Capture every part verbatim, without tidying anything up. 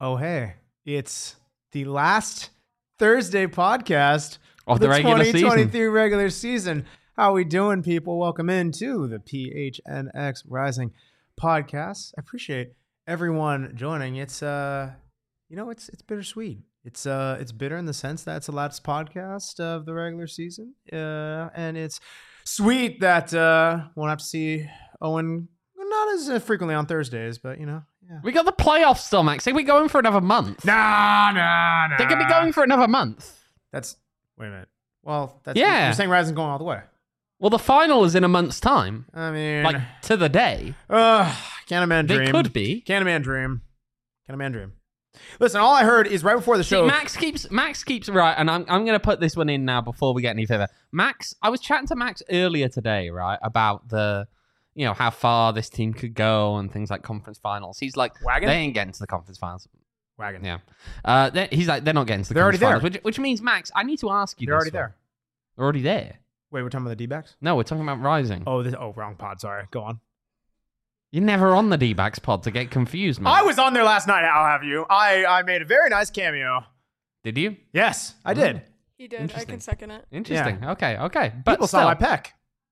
Oh, hey, it's the last Thursday podcast of the, the regular twenty twenty-three season. regular season. How we doing, people? Welcome into the P H N X Rising podcast. I appreciate everyone joining. It's uh, you know, it's it's bittersweet. It's uh, it's bitter in the sense that it's the last podcast of the regular season, uh, and it's sweet that uh, won't have to see Owen not as frequently on Thursdays, but you know. Yeah. We got the playoffs still, Max. Are we going for another month? Nah, nah, nah. They could be going for another month. That's wait a minute. Well, that's yeah. You're saying Rising's going all the way. Well, the final is in a month's time. I mean, like to the day. Uh, can a man dream? They could be. Can a man dream? Can a man dream? Listen, all I heard is right before the show. See, Max keeps Max keeps right, and I'm I'm gonna put this one in now before we get any further. Max, I was chatting to Max earlier today, right, about the. You know, how far this team could go and things like conference finals. He's like, Wagon? They ain't getting to the conference finals. Wagon. Yeah. Uh, he's like, they're not getting to the they're conference already finals. Which, which means, Max, I need to ask you They're this already one. there. They're already there. Wait, we're talking about the D-backs? No, we're talking about Rising. Oh, this, oh, wrong pod. Sorry. Go on. You're never on the D-backs pod to get confused, man. I was on there last night, I'll have you. I, I made a very nice cameo. Did you? Yes, I did. He did. I can second it. Interesting. Yeah. Okay, okay. But People still, saw my peck.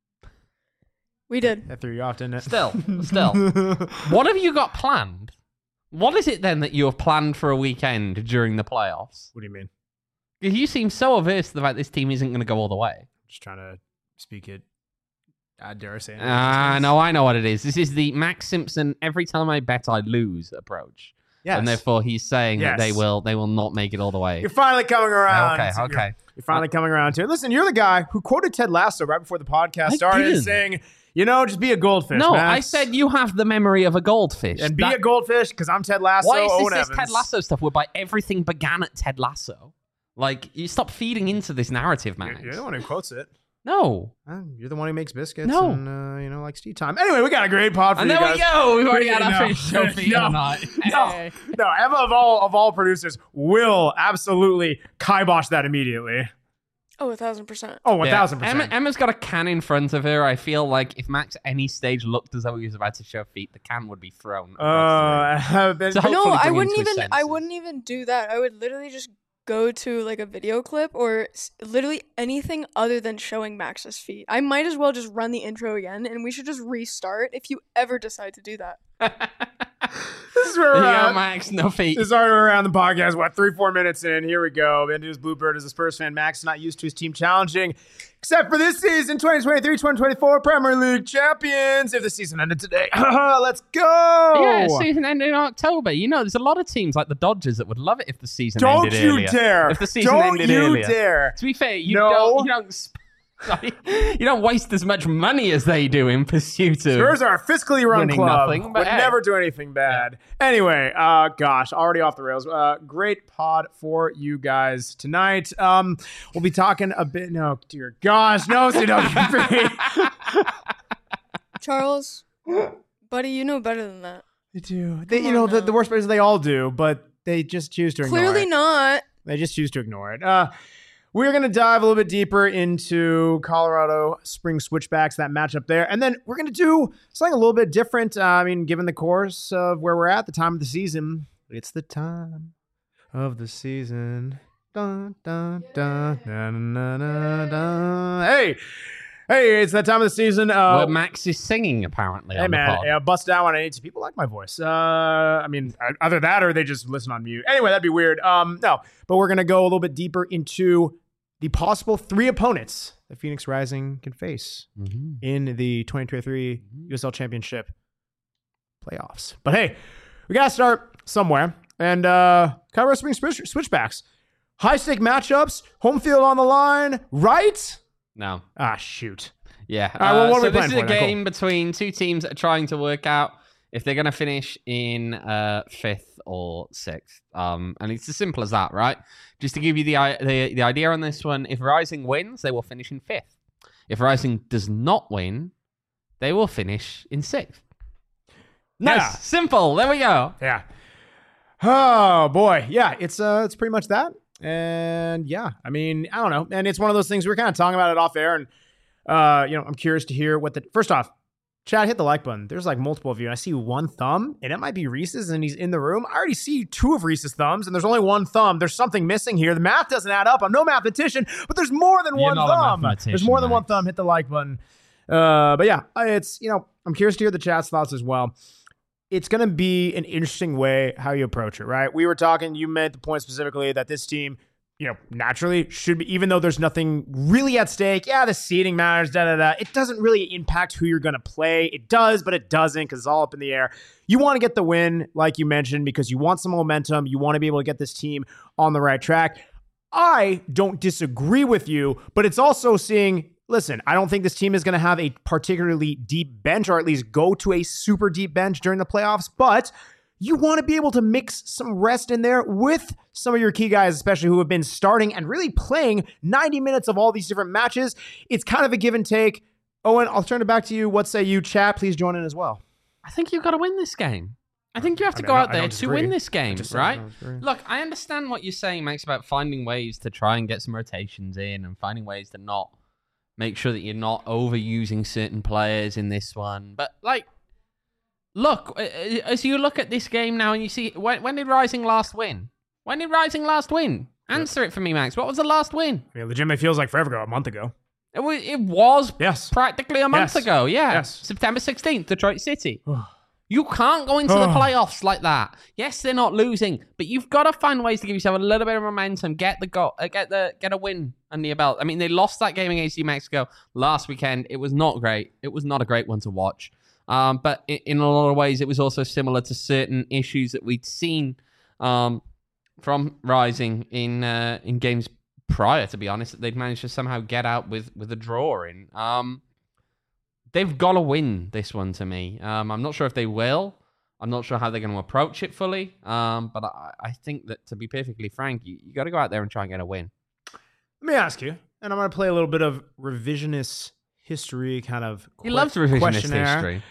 We did. That threw you off, didn't it? Still, still. What have you got planned? What is it then that you have planned for a weekend during the playoffs? What do you mean? You seem so averse to the fact this team isn't going to go all the way. Just trying to speak it. I dare say it. Ah, uh, no, I know what it is. This is the Max Simpson every time I bet I lose approach. Yes. And therefore he's saying yes. that they will they will not make it all the way. You're finally coming around. Okay, okay. You're, you're finally uh, coming around to it. Listen, you're the guy who quoted Ted Lasso right before the podcast I started didn't. saying, you know, just be a goldfish, No, Max. I said you have the memory of a goldfish. And be that, a goldfish because I'm Ted Lasso. Why is Owen this, this Evans. Ted Lasso stuff whereby everything began at Ted Lasso? Like, you stop feeding into this narrative, Max. You're, you're the one who quotes it. No. Uh, you're the one who makes biscuits No. and, uh, you know, likes tea time. Anyway, we got a great pod for and you there guys. we go. We've already got No. our first show for you No. tonight. No, Hey. no, Emma of all of all producers will absolutely kibosh that immediately. Oh, a thousand percent. Oh, one Yeah. thousand percent. Emma, Emma's got a can in front of her. I feel like if Max at any stage looked as though he was about to show feet, the can would be thrown. Uh, then- So No, hopefully I bring wouldn't into his even. I senses. wouldn't even do that. I would literally just go to like a video clip or s- literally anything other than showing Max's feet. I might as well just run the intro again, and we should just restart if you ever decide to do that. this is where we're Yeah, at. Max, no feet. This is already around the podcast. What, three, four minutes in? Here we go. Benji's Bluebird is a Spurs fan. Max is not used to his team challenging, except for this season, twenty twenty-three twenty twenty-four Premier League champions. If the season ended today, let's go. Yeah, season ended in October. You know, there's a lot of teams like the Dodgers that would love it if the season Don't ended you earlier. dare. If the season Don't ended you earlier. dare. To be fair, you No. don't. You don't. Sp- Sorry. You don't waste as much money as they do in pursuit of. Spurs are a fiscally run winning club. nothing, but would hey. never do anything bad. Anyway, uh, gosh, already off the rails. Uh, great pod for you guys tonight. Um, we'll be talking a bit. No, dear gosh, no, C W P. Charles, buddy, you know better than that. They do. They, Come you on know, the, now. the worst part is they all do, but they just choose to ignore Clearly it. not. They just choose to ignore it. Uh, we're going to dive a little bit deeper into Colorado Spring Switchbacks, that matchup there. And then we're going to do something a little bit different. Uh, I mean, given the course of where we're at, the time of the season, it's the time of the season. Dun, dun, dun, dun, dun, dun, dun. Hey, hey, it's that time of the season. Uh, Where Max is singing, apparently. Hey on man, the pod. yeah, bust down when I need to. People like my voice. Uh, I mean, either that or they just listen on mute. Anyway, that'd be weird. Um, no, but we're gonna go a little bit deeper into the possible three opponents that Phoenix Rising can face Mm-hmm. in the twenty twenty-three U S L Championship playoffs. But hey, we gotta start somewhere. And uh, Colorado Springs switch- switchbacks, high stake matchups, home field on the line, right? No. Ah, shoot. Yeah. right, well, uh, what are so we this playing is a for then? Cool. game between two teams that are trying to work out if they're going to finish in uh, fifth or sixth. Um, and it's as simple as that, right? Just to give you the, i- the the idea on this one, if Rising wins, they will finish in fifth. If Rising does not win, they will finish in sixth. Nice. Yeah. Simple. There we go. Yeah. Oh boy. Yeah, it's uh it's pretty much that. And yeah, I mean, I don't know. And it's one of those things we we're kind of talking about it off air. And uh, you know, I'm curious to hear what the first off, Chad, hit the like button. There's like multiple of you, and I see one thumb, and it might be Reese's, and he's in the room. I already see two of Reese's thumbs, and there's only one thumb. There's something missing here. The math doesn't add up. I'm no mathematician, but there's more than You're one not a thumb. mathematician, There's more than mate. one thumb. Hit the like button. Uh, but yeah, it's, you know, I'm curious to hear the chat's thoughts as well. It's going to be an interesting way how you approach it, right? We were talking, you made the point specifically that this team, you know, naturally should be, even though there's nothing really at stake. Yeah, the seeding matters, da da da. It doesn't really impact who you're going to play. It does, but it doesn't because it's all up in the air. You want to get the win, like you mentioned, because you want some momentum. You want to be able to get this team on the right track. I don't disagree with you, but it's also seeing, listen, I don't think this team is going to have a particularly deep bench, or at least go to a super deep bench during the playoffs, but you want to be able to mix some rest in there with some of your key guys, especially who have been starting and really playing ninety minutes of all these different matches. It's kind of a give and take. Owen, I'll turn it back to you. What say you? Chat, please join in as well. I think you've got to win this game. I think you have to I mean, go I out don't- I there don't to disagree. win this game, just said I right? don't disagree. Look, I understand what you're saying, Max, about finding ways to try and get some rotations in and finding ways to not make sure that you're not overusing certain players in this one. But, like, look, uh, as you look at this game now and you see, when, when did Rising last win? When did Rising last win? Answer it for me, Max. What was the last win? I mean, legitimately feels like forever ago, a month ago. It was, it was Yes. practically a month Yes. ago. Yeah. Yes. September sixteenth, Detroit City. You can't go into the Oh. playoffs like that. Yes, they're not losing, but you've got to find ways to give yourself a little bit of momentum. Get the go, uh, get the get a win under your belt. I mean, they lost that game against New Mexico last weekend. It was not great. It was not a great one to watch. Um, but in, in a lot of ways, it was also similar to certain issues that we'd seen um, from Rising in uh, in games prior. To be honest, that they'd managed to somehow get out with with a draw in. Um, They've got to win this one to me. Um, I'm not sure if they will. I'm not sure how they're going to approach it fully. Um, but I, I think that, to be perfectly frank, you, you got to go out there and try and get a win. Let me ask you, and I'm going to play a little bit of revisionist history kind of He que- loves revisionist questionnaire. history.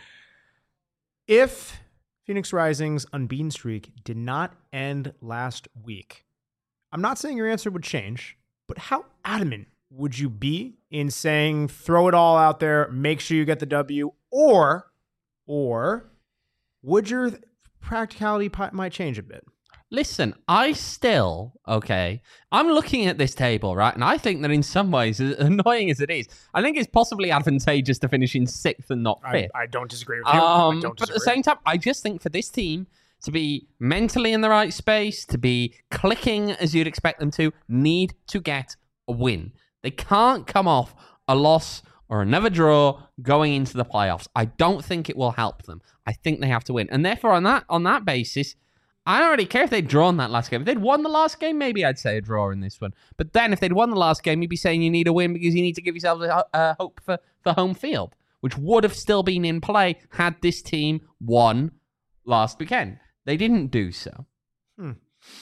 If Phoenix Rising's unbeaten streak did not end last week, I'm not saying your answer would change, but how adamant would you be in saying throw it all out there, make sure you get the W, or or would your practicality pi- might change a bit? Listen, I still, okay, I'm looking at this table, right? And I think that in some ways, as annoying as it is, I think it's possibly advantageous to finish in sixth and not I, fifth. I don't disagree with you. Um, I don't but at the disagree. same time, I just think for this team to be mentally in the right space, to be clicking as you'd expect them to, need to get a win. They can't come off a loss or another draw going into the playoffs. I don't think it will help them. I think they have to win. And therefore, on that on that basis, I don't really care if they'd drawn that last game. If they'd won the last game, maybe I'd say a draw in this one. But then if they'd won the last game, you'd be saying you need a win because you need to give yourself a, a hope for, for home field, which would have still been in play had this team won last weekend. They didn't do so. Hmm.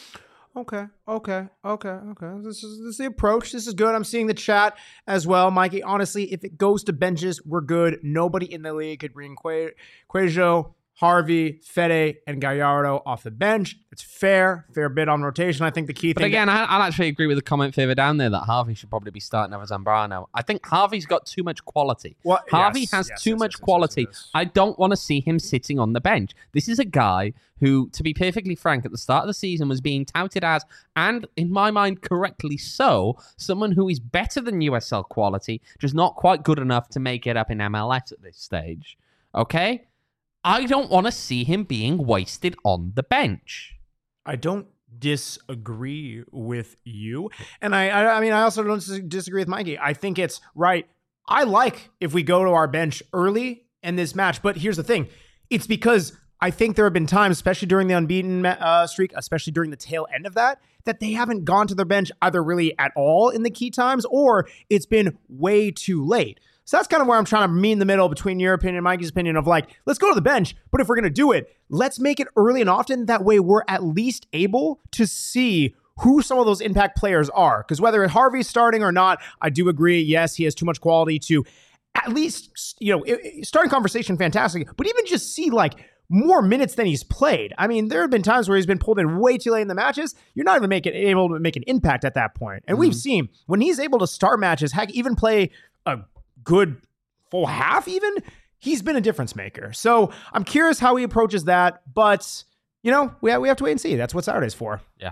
Okay, okay, okay, okay. This is this is the approach. This is good. I'm seeing the chat as well, Mikey. Honestly, if it goes to benches, we're good. Nobody in the league could bring Que- Queijo, Harvey, Fede, and Gallardo off the bench. It's fair, fair bit on rotation. I think the key But thing. again, I, I'll actually agree with the comment further down there that Harvey should probably be starting over Zambrano. I think Harvey's got too much quality. Well, Harvey yes, has yes, too yes, much yes, yes, quality. yes, yes. I don't want to see him sitting on the bench. This is a guy who, to be perfectly frank, at the start of the season was being touted as, and in my mind correctly so, someone who is better than U S L quality, just not quite good enough to make it up in M L S at this stage. Okay? I don't want to see him being wasted on the bench. I don't disagree with you. And I, I, I mean, I also don't dis- disagree with Mikey. I think it's right. I like if we go to our bench early in this match, but here's the thing. It's because I think there have been times, especially during the unbeaten uh, streak, especially during the tail end of that, that they haven't gone to their bench either really at all in the key times, or it's been way too late. So that's kind of where I'm trying to meet in the middle between your opinion and Mikey's opinion of like, let's go to the bench, but if we're going to do it, let's make it early and often. That way we're at least able to see who some of those impact players are. Because whether Harvey's starting or not, I do agree, yes, he has too much quality to at least, you know, starting conversation, fantastic, but even just see like more minutes than he's played. I mean, there have been times where he's been pulled in way too late in the matches. You're not even making able to make an impact at that point. And mm-hmm. we've seen when he's able to start matches, heck, even play a good full half even, he's been a difference maker. So I'm curious how he approaches that, but you know, we have, we have to wait and see. That's what Saturday's for. Yeah.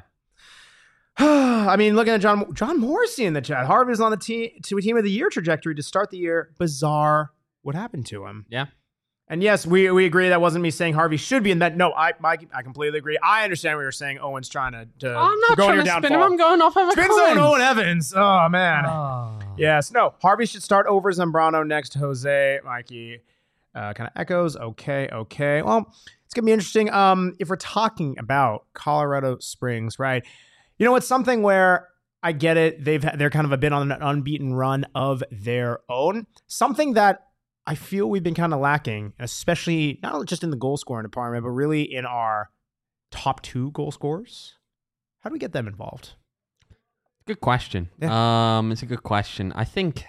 I mean, looking at John John Morrissey in the chat. Harvey's on the team to a team of the year trajectory to start the year. Bizarre. What happened to him? Yeah. And yes, we we agree that wasn't me saying Harvey should be in that. No, I Mike, I completely agree. I understand what you're saying. Owen's trying to, to I'm not go on trying your to downfall. spin him. I'm going off of a Spin comment. zone Owen Evans. Oh man. Oh. Yes. No. Harvey should start over Zambrano next to Jose. Mikey uh, kind of echoes. Okay. Okay. Well, it's gonna be interesting. Um, if we're talking about Colorado Springs, right? You know, it's something where I get it. They've they're kind of a bit on an unbeaten run of their own. Something that I feel we've been kind of lacking, especially not just in the goal scoring department, but really in our top two goal scorers. How do we get them involved? Good question. Yeah. Um, it's a good question. I think.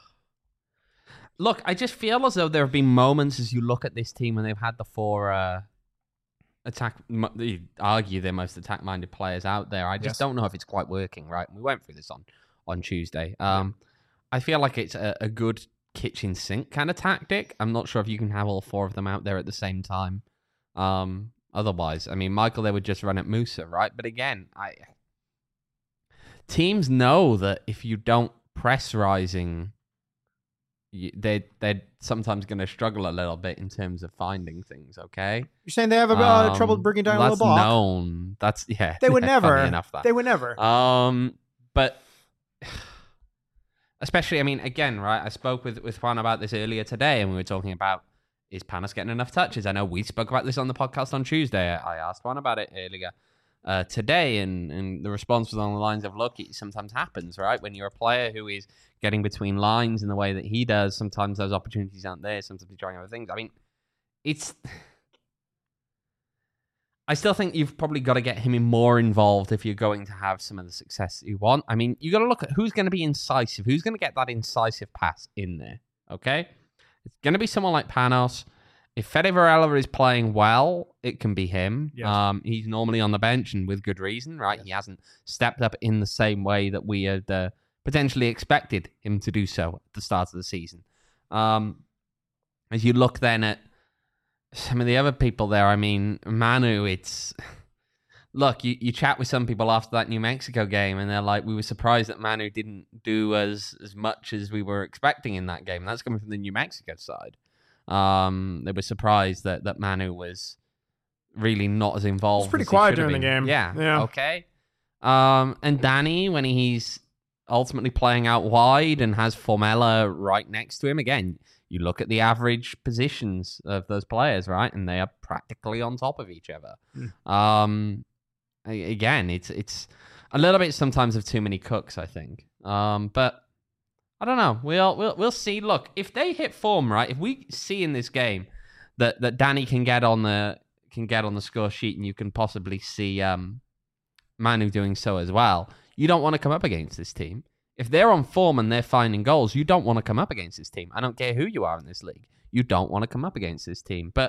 Look, I just feel as though there have been moments as you look at this team when they've had the four uh, attack. You argue they're most attack-minded players out there. I just yes. don't know if it's quite working. Right? We went through this on on Tuesday. Um, yeah. I feel like it's a, a good kitchen sink kind of tactic. I'm not sure if you can have all four of them out there at the same time. Um, otherwise, I mean, Michael, they would just run at Musa, right? But again, I teams know that if you don't press Rising, you, they they're sometimes going to struggle a little bit in terms of finding things. Okay, you're saying they have a um, uh, trouble bringing down that's LeBlanc? Known. That's yeah. They would yeah, never. Enough that. They would never. Um, but. Especially, I mean, again, right, I spoke with, with Juan about this earlier today, and we were talking about, is Panos getting enough touches? I know we spoke about this on the podcast on Tuesday. I asked Juan about it earlier uh, today, and, and the response was on the lines of, look, it sometimes happens, right? When you're a player who is getting between lines in the way that he does, sometimes those opportunities aren't there, sometimes you're trying other things. I mean, it's... I still think you've probably got to get him in more involved if you're going to have some of the success that you want. I mean, you got to look at who's going to be incisive, who's going to get that incisive pass in there, okay? It's going to be someone like Panos. If Fede Varela is playing well, it can be him. Yes. Um, he's normally on the bench and with good reason, right? Yes. He hasn't stepped up in the same way that we had uh, potentially expected him to do so at the start of the season. Um, as you look then at some of the other people there, I mean, Manu, it's... Look, you, you chat with some people after that New Mexico game, and they're like, we were surprised that Manu didn't do as, as much as we were expecting in that game. And that's coming from the New Mexico side. Um, they were surprised that, that Manu was really not as involved. It's pretty as quiet during the game. Yeah, yeah. Okay. Um, and Danny, when he's ultimately playing out wide and has Formella right next to him, again... You look at the average positions of those players, right? And they are practically on top of each other. Mm. Um, again, it's it's a little bit sometimes of too many cooks, I think. Um, but I don't know. We'll we'll we'll see. Look, if they hit form, right? If we see in this game that, that Danny can get on the can get on the score sheet, and you can possibly see um, Manu doing so as well, you don't want to come up against this team. If they're on form and they're finding goals, you don't want to come up against this team. I don't care who you are in this league. You don't want to come up against this team. But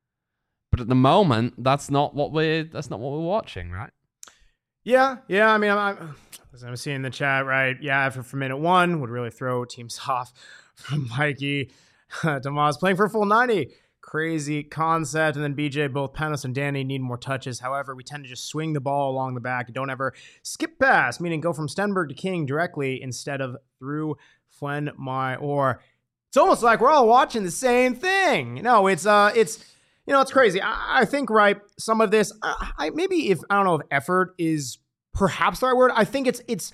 but at the moment, that's not what we're that's not what we're watching, right? Yeah, yeah. I mean, I'm, I'm, as I'm seeing in the chat, right? Yeah, after for minute one would really throw teams off. From Mikey, Tomas playing for a full ninety. Crazy concept. And then B J, both Panos and Danny need more touches. However, we tend to just swing the ball along the back. Don't ever skip pass, meaning go from Stenberg to King directly instead of through Fuen Mai. Or it's almost like we're all watching the same thing. No, it's uh, it's you know, it's crazy. I, I think right. Some of this, I, I maybe if I don't know if effort is perhaps the right word. I think it's it's.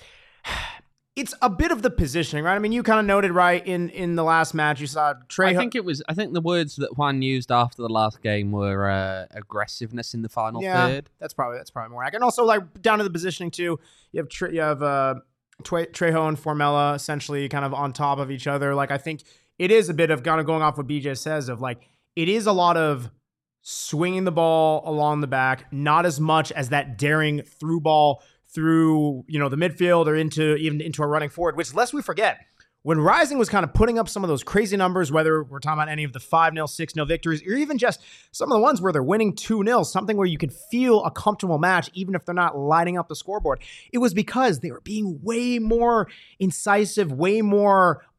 It's a bit of the positioning, right? I mean, you kind of noted, right, in, in the last match, you saw Trey... I think it was... I think the words that Juan used after the last game were uh, aggressiveness in the final yeah, third. that's probably that's probably more accurate. And also, like, down to the positioning, too, you have Tre- you have uh, Tre- Trejo and Formella essentially kind of on top of each other. Like, I think it is a bit of kind of going off what B J says of, like, it is a lot of swinging the ball along the back, not as much as that daring through ball through, you know, the midfield or into even into a running forward, which lest we forget, when Rising was kind of putting up some of those crazy numbers, whether we're talking about any of the five nil, six nil victories, or even just some of the ones where they're winning two nil, something where you can feel a comfortable match, even if they're not lighting up the scoreboard, it was because they were being way more incisive, way more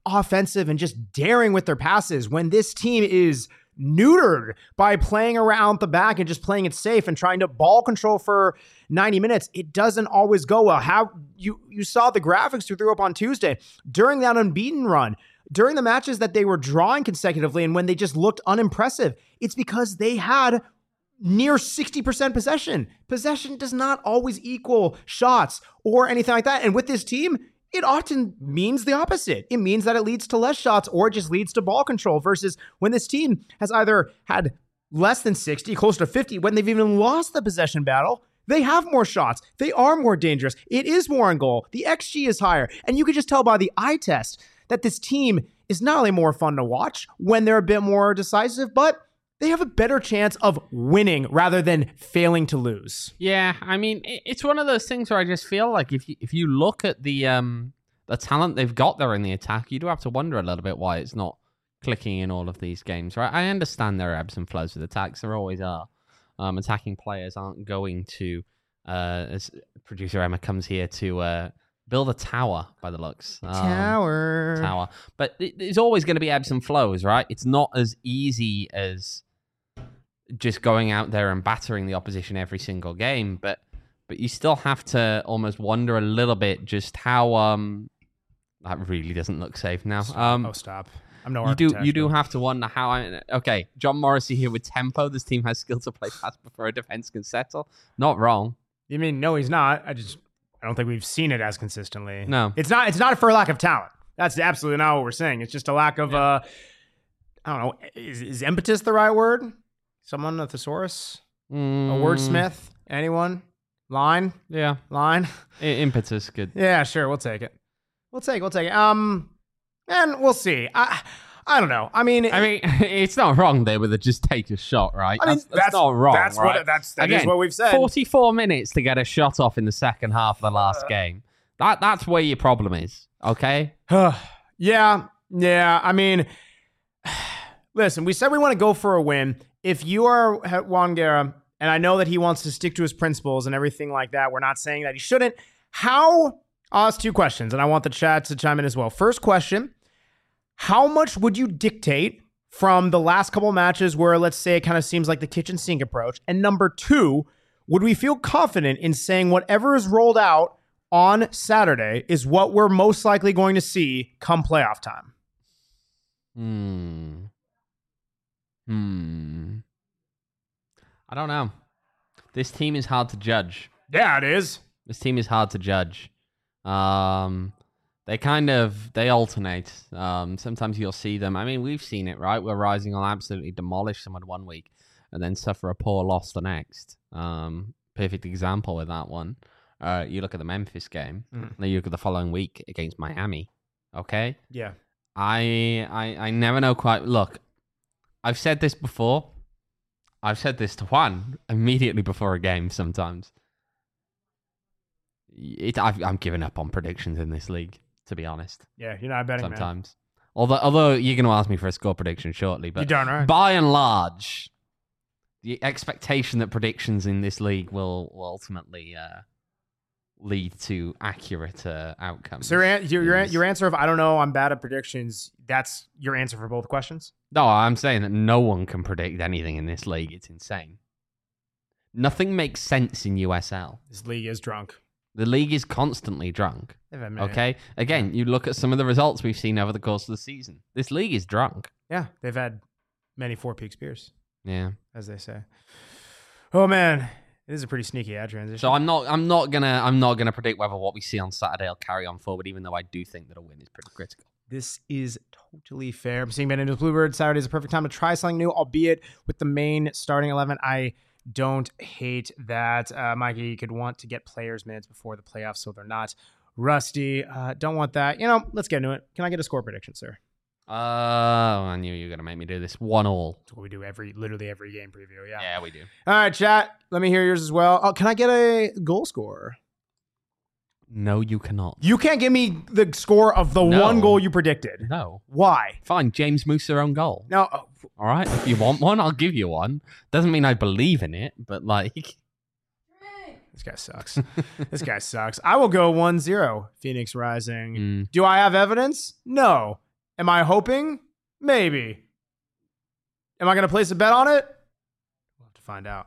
offensive and just daring with their passes when this team is neutered by playing around the back and just playing it safe and trying to ball control for ninety minutes. It doesn't always go well. How you, you saw the graphics we threw up on Tuesday during that unbeaten run, during the matches that they were drawing consecutively and when they just looked unimpressive. It's because they had near sixty percent possession. Possession does not always equal shots or anything like that. And with this team, it often means the opposite. It means that it leads to less shots or it just leads to ball control versus when this team has either had less than sixty, close to fifty, when they've even lost the possession battle, they have more shots. They are more dangerous. It is more on goal. The X G is higher. And you can just tell by the eye test that this team is not only more fun to watch when they're a bit more decisive, but they have a better chance of winning rather than failing to lose. Yeah, I mean, it's one of those things where I just feel like if you, if you look at the um the talent they've got there in the attack, you do have to wonder a little bit why it's not clicking in all of these games, right? I understand there are ebbs and flows with attacks. There always are. Um, attacking players aren't going to, uh, as producer Emma comes here to uh, build a tower by the looks. Um, tower. Tower. But it, there's always going to be ebbs and flows, right? It's not as easy as just going out there and battering the opposition every single game, but but you still have to almost wonder a little bit just how um that really doesn't look safe now. Um, oh, stop! I'm no you do architect, you do but- have to wonder how. I, okay, John Morrissey here with tempo. This team has skill to play fast before a defense can settle. Not wrong. You mean no? He's not. I just I don't think we've seen it as consistently. No. it's not. It's not for a lack of talent. That's absolutely not what we're saying. It's just a lack of. Yeah. uh I don't know. Is, is impetus the right word? Someone a thesaurus, a Mm, wordsmith, anyone? Line, Yeah, line. I- impetus good. Yeah, sure. We'll take it. We'll take it. We'll take it. Um, and we'll see. I, I don't know. I mean, I mean, it's not wrong there with a just take a shot, right? I mean, that's, that's not wrong. That's right? what that's that is Again, what we've said. forty-four minutes to get a shot off in the second half of the last Uh, game. That that's where your problem is. Okay. yeah, yeah. I mean, listen. We said we want to go for a win. If you are Juan Guerra, and I know that he wants to stick to his principles and everything like that, we're not saying that he shouldn't. How? I'll ask two questions, and I want the chat to chime in as well. First question: how much would you dictate from the last couple matches where, let's say, it kind of seems like the kitchen sink approach? And number two, would we feel confident in saying whatever is rolled out on Saturday is what we're most likely going to see come playoff time? Hmm. Hmm. I don't know. This team is hard to judge. Yeah, it is. This team is hard to judge. Um, they kind of they alternate. Um, sometimes you'll see them. I mean, we've seen it, right? Where Rising will absolutely demolish someone one week and then suffer a poor loss the next. Um, perfect example with that one. Uh, you look at the Memphis game. Mm. Then you look at the following week against Miami. Okay. Yeah. I I I never know quite. Look, I've said this before. I've said this to Juan immediately before a game sometimes. It, I've, I'm giving up on predictions in this league, to be honest, Yeah, you're not betting, man. sometimes. Although, although you're going to ask me for a score prediction shortly, You but darn right. by and large, the expectation that predictions in this league will, will ultimately uh, lead to accurate uh, outcomes. So your, an- your, your, is- your answer of, I don't know, I'm bad at predictions, that's your answer for both questions? No, I'm saying that no one can predict anything in this league. It's insane. Nothing makes sense in U S L. This league is drunk. The league is constantly drunk. They've had many- Okay? Again, you look at some of the results we've seen over the course of the season. This league is drunk. Yeah, they've had many Four Peaks beers, Yeah. as they say. Oh, man. It is a pretty sneaky ad transition. So I'm not I'm not gonna I'm not gonna predict whether what we see on Saturday will carry on forward, even though I do think that a win is pretty critical. This is totally fair. I'm seeing Ben into Bluebird. Saturday is a perfect time to try something new, albeit with the main starting eleven. I don't hate that. Uh, Mikey could want to get players minutes before the playoffs so they're not rusty. Uh, don't want that. You know, let's get into it. Can I get a score prediction, sir? Oh, I knew you were gonna make me do this. One all. That's what we do every, literally every game preview. Yeah. Yeah, we do. All right, chat. Let me hear yours as well. Oh, can I get a goal score? No, you cannot. You can't give me the score of the No. one goal you predicted. No. Why? Fine, James Musa own goal. No. Oh, All right, if you want one, I'll give you one. Doesn't mean I believe in it, but like, this guy sucks. This guy sucks. I will go one zero Phoenix Rising. mm, Do I have evidence? No. Am I hoping? Maybe. Am I going to place a bet on it? We'll have to find out.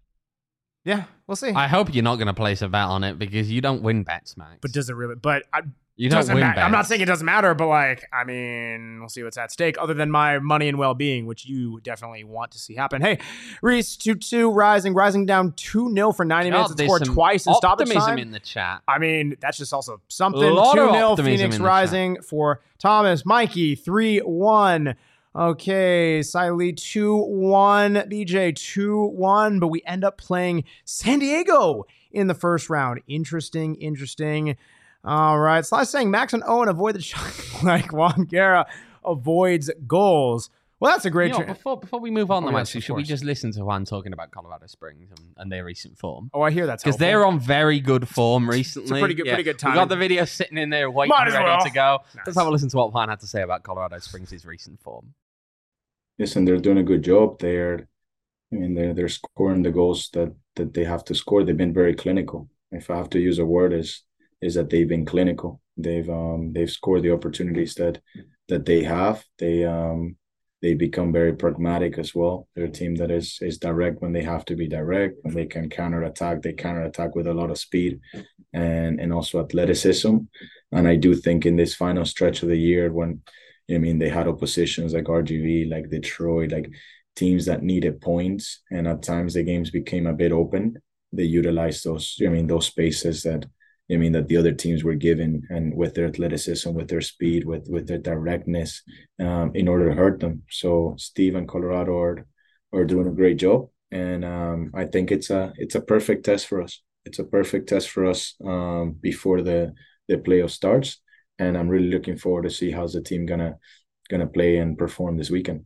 Yeah, we'll see. I hope you're not going to place a bet on it because you don't win bets, Max. But does it really? But I, you don't win ma- bets. I'm not saying it doesn't matter, but like, I mean, we'll see what's at stake other than my money and well-being, which you definitely want to see happen. Hey, Reese, two two, rising, rising down two nil for ninety God, minutes. It scored twice in stoppage optimism time. in the chat. I mean, that's just also something. A lot two of nil, optimism Phoenix in the rising for Thomas. Mikey, three one. Okay, Siley two one, B J two one, but we end up playing San Diego in the first round. Interesting, interesting. All right, Sly saying Max and Owen avoid the shot like Juan Guerra avoids goals. Well, that's a great... You know, tra- before, before we move on, Oh, though, yes, actually, of should we course. just listen to Juan talking about Colorado Springs and, and their recent form? oh, I hear that's Because helpful. they're on very good form recently. pretty good- pretty good We got timing. the video sitting in there waiting, Might as ready well. to go. Nice. Let's have a listen to what Juan had to say about Colorado Springs' recent form. Listen, they're doing a good job. They're, I mean, they're they're scoring the goals that that they have to score. They've been very clinical. If I have to use a word, is is that they've been clinical. They've um they've scored the opportunities that that they have. They um they become very pragmatic as well. They're a team that is is direct when they have to be direct. When they can counter attack, they counter attack with a lot of speed and and also athleticism. And I do think in this final stretch of the year when I mean, they had oppositions like R G V, like Detroit, like teams that needed points. And at times the games became a bit open. They utilized those, I mean, those spaces that, I mean, that the other teams were given and with their athleticism, with their speed, with, with their directness um, in order to hurt them. So Steve and Colorado are, are doing a great job. And um, I think it's a, it's a perfect test for us. It's a perfect test for us um, before the, the playoff starts. And I'm really looking forward to see how's the team gonna gonna play and perform this weekend.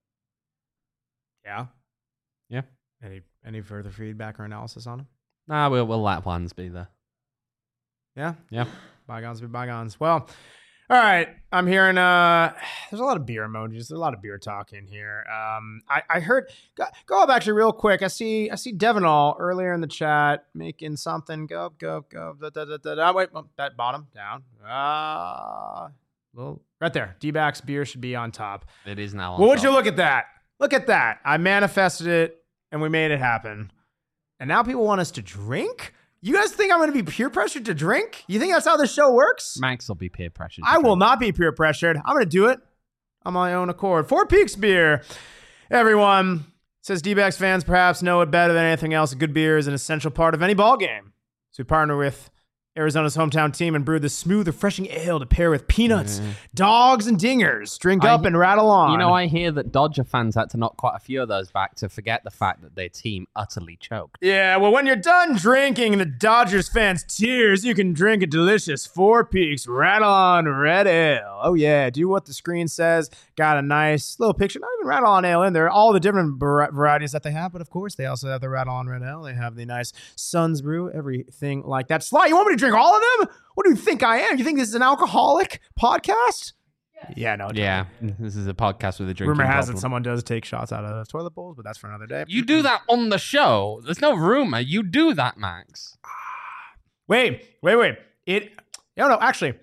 Yeah. Yeah. Any any further feedback or analysis on him? Nah, we'll, we'll let Juan's be there. Yeah? Yeah. Bygones be bygones. Well, all right. I'm hearing uh there's a lot of beer emojis. There's a lot of beer talk in here. Um I, I heard go, go up actually real quick. I see I see Devinall earlier in the chat making something. Go up, go up, go up. Da, da, da, da, da. Wait, oh, that bottom down. Ah uh, little right there. D-backs beer should be on top. It is now on Well, would top. you look at that? Look at that. I manifested it and we made it happen. And now people want us to drink? You guys think I'm going to be peer pressured to drink? You think that's how the show works? Max will be peer pressured. I will not be peer pressured. I'm going to do it on my own accord. Four Peaks beer. Everyone says D-backs fans perhaps know it better than anything else. A good beer is an essential part of any ball game. So we partner with Arizona's hometown team and brewed the smooth, refreshing ale to pair with peanuts, Yeah. dogs, and dingers. Drink I- up and rattle on. You know, I hear that Dodger fans had to knock quite a few of those back to forget the fact that their team utterly choked. Yeah, well, when you're done drinking the Dodgers fans' tears, you can drink a delicious Four Peaks Rattle On Red Ale. Oh, yeah, do what the screen says. Got a nice little picture, not even Rattle On Ale in there, all the different var- varieties that they have, but of course, they also have the Rattle On Red Ale. They have the nice Suns Brew, everything like that. Sly, you want me to drink all of them? What do you think I am? You think this is an alcoholic podcast? Yeah, no. Yeah, this is a podcast with a drinking Rumor has problem. it someone does take shots out of toilet bowls, but that's for another day. You do that on the show. There's no rumor. You do that, Max. Wait, wait, wait. It, no, no, actually,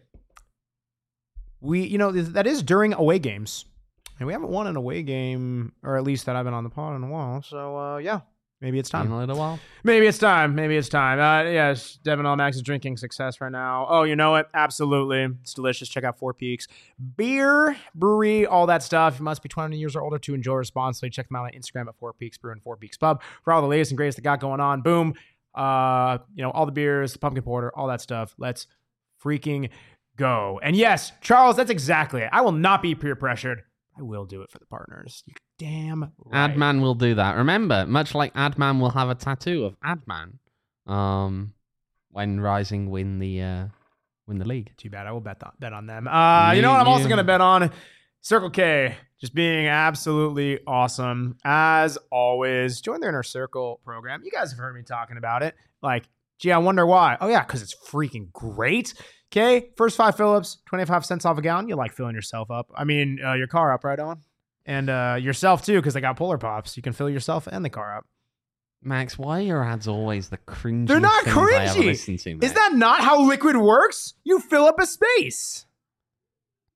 we, you know, that is during away games. And we haven't won an away game, or at least that I've been on the pod in a while. So, uh, yeah, maybe it's In time. a little while. Maybe it's time. Maybe it's time. Uh, yes, Devin Max is drinking success right now. Oh, you know it? Absolutely. It's delicious. Check out Four Peaks. Beer, brewery, all that stuff. You must be twenty years or older to enjoy responsibly. Check them out on Instagram at Four Peaks Brew and Four Peaks Pub for all the latest and greatest they got going on. Boom. Uh, you know, all the beers, the pumpkin porter, all that stuff. Let's freaking go. And yes, Charles, that's exactly it. I will not be peer pressured. I will do it for the partners. You damn right. Adman will do that. Remember, much like Adman will have a tattoo of Adman um, when Rising win the uh, win the league. Too bad. I will bet th- bet on them. Uh, you know what? I'm also You- going to bet on Circle K. Just being absolutely awesome as always. Join their Inner Circle program. You guys have heard me talking about it. Like, gee, I wonder why. Oh yeah, because it's freaking great. Okay, first five fill-ups, twenty-five cents off a gallon. You like filling yourself up. I mean, uh, your car up, right on? And uh, yourself too, because they got Polar Pops. You can fill yourself and the car up. Max, why are your ads always the cringy? They're not things I ever cringy. listen to, Is mate? that not how liquid works? You fill up a space.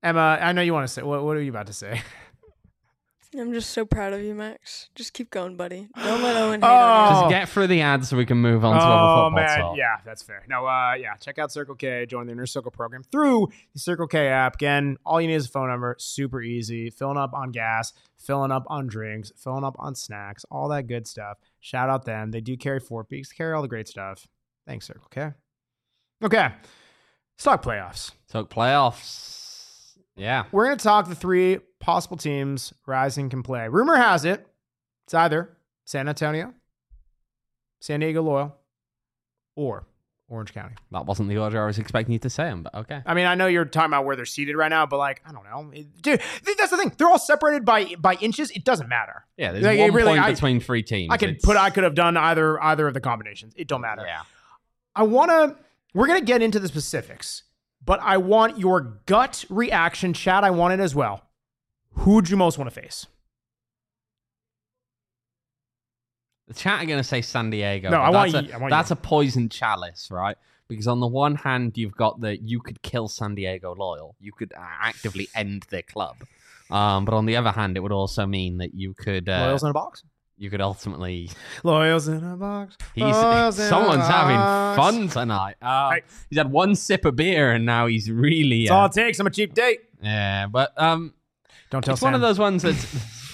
Emma, I know you want to say. What, what are you about to say? I'm just so proud of you, Max. Just keep going, buddy. Don't let Owen hate on you. Just get through the ads so we can move on to oh, other football man. talk. Yeah, that's fair. No, uh, yeah, check out Circle K. Join the Inner Circle program through the Circle K app. Again, all you need is a phone number. Super easy. Filling up on gas, filling up on drinks, filling up on snacks, all that good stuff. Shout out them. They do carry Four Peaks, carry all the great stuff. Thanks, Circle K. Okay, let's talk playoffs. Talk playoffs. Yeah. We're going to talk the three possible teams Rising can play. Rumor has it, it's either San Antonio, San Diego Loyal, or Orange County. That wasn't the order I was expecting you to say them, but okay. I mean, I know you're talking about where they're seated right now, but like, I don't know. It, dude, that's the thing. They're all separated by by inches. It doesn't matter. Yeah, there's Like, one it really- point I- between three teams. I could It's- put I could have done either either of the combinations. It don't matter. Yeah. I want to we're going to get into the specifics, but I want your gut reaction, chat. I want it as well. Who would you most want to face? The chat are going to say San Diego. No, but I want that's you- a, I want That's you. a poison chalice, right? Because on the one hand, you've got the you could kill San Diego Loyal. You could uh, actively end their club. Um, but on the other hand, it would also mean that you could uh, Loyals in a box. you could ultimately. Loyals in a box. He's Loyals in a someone's having box. fun tonight. Uh, Hey. He's had one sip of beer and now he's really. That's Uh, all it takes. I'm a cheap date. yeah, but um, Don't tell it's Sam. one of those ones that's.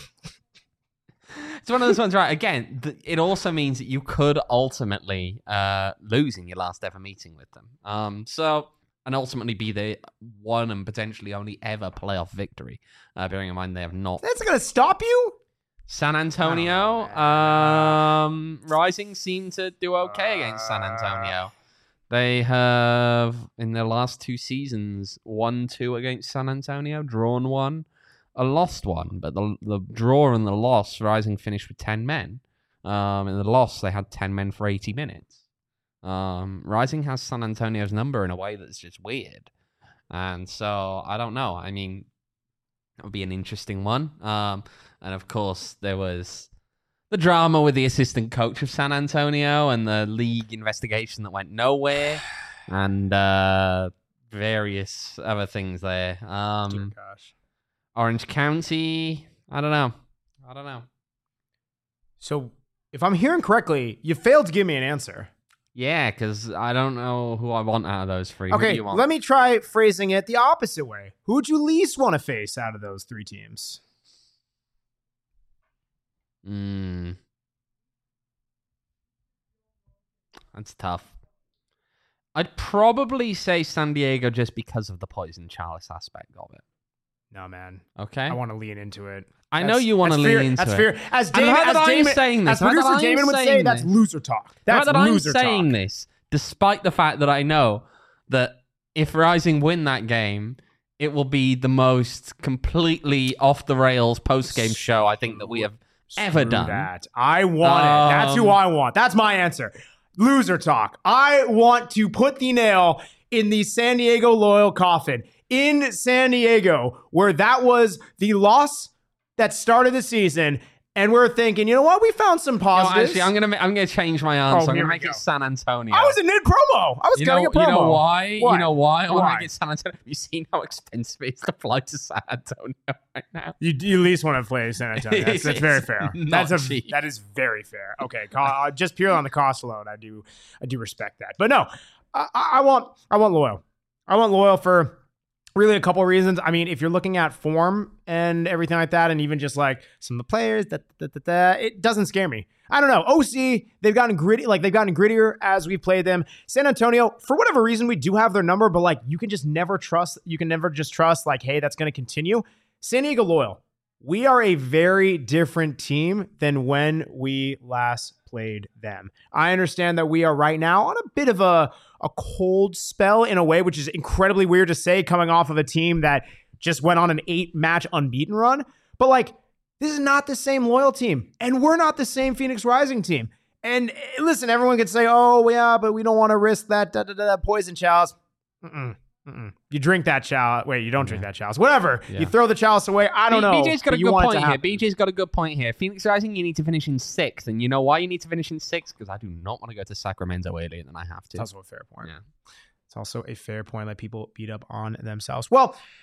It's one of those ones, right? Again, th- it also means that you could ultimately uh, lose in your last ever meeting with them. Um, so, and ultimately be the one and potentially only ever playoff victory. Uh, bearing in mind they have not. That's going to stop you? San Antonio, Oh, um, Rising seem to do okay against San Antonio. They have, in their last two seasons, won two against San Antonio, drawn one. A lost one, but the the draw and the loss, Rising finished with ten men. Um, in the loss, they had ten men for eighty minutes. Um, Rising has San Antonio's number in a way that's just weird, and so I don't know. I mean, it would be an interesting one. Um, and of course, there was the drama with the assistant coach of San Antonio and the league investigation that went nowhere, and uh, various other things there. Um, Dear gosh. Orange County, I don't know. I don't know. So, if I'm hearing correctly, you failed to give me an answer. Yeah, because I don't know who I want out of those three. Who do Okay, you want? let me try phrasing it the opposite way. Who would you least want to face out of those three teams? Mm. That's tough. I'd probably say San Diego just because of the poison chalice aspect of it. No, man. Okay. I want to lean into it. I know That's- you want to that's lean fear- into That's it. fear. As And Damon, how as that I'm Damon, saying this, as how that producer I'm Damon would say, saying that's this. loser talk. That's Now that I'm loser saying talk. this, despite the fact that I know that if Rising win that game, it will be the most completely off the rails post game show I think that we have ever Screw done. That. I want it. That's who Um, I want. That's my answer. Loser talk. I want to put the nail in the San Diego Loyal coffin in San Diego, where that was the loss that started the season. And we're thinking, you know what? We found some No, positives. actually, I'm gonna ma- I'm gonna change my answer. I'm here gonna we make go. it San Antonio. I was in mid promo. I was you cutting know, a promo. you know why? What? You know why? I want Why? to make it San Antonio. Have you seen how expensive it is to fly to San Antonio right now? You, you at least want to play San Antonio. That's, that's very It's fair. not That's a cheap. that is very fair. Okay, co- uh, just purely on the cost alone, I do I do respect that. But no, I, I I want I want Loyal. I want Loyal for really a couple of reasons. I mean, if you're looking at form and everything like that, and even just like some of the players, that that that, that it doesn't scare me. I don't know. O C, they've gotten gritty, like they've gotten grittier as we played them. San Antonio, for whatever reason, we do have their number, but like you can just never trust. You can never just trust like, hey, that's going to continue. San Diego Loyal, we are a very different team than when we last played them. I understand that we are right now on a bit of a, a cold spell in a way, which is incredibly weird to say coming off of a team that just went on an eight match unbeaten run. But like, this is not the same Loyal team, and we're not the same Phoenix Rising team. And eh, listen, everyone could say, oh, yeah, but we don't want to risk that da, da, da, da, poison chalice. Mm-mm. Mm-mm. You drink that chalice. Wait, you don't drink Yeah. that chalice. Whatever. Yeah. You throw the chalice away. I don't B- know. B J's got but a you good want it to point here. happen. B J's got a good point here. Phoenix Rising, you need to finish in sixth, and you know why you need to finish in sixth? Because I do not want to go to Sacramento earlier than I have to. It's also a fair point. Yeah. It's also a fair point. Let people beat up on themselves. Well,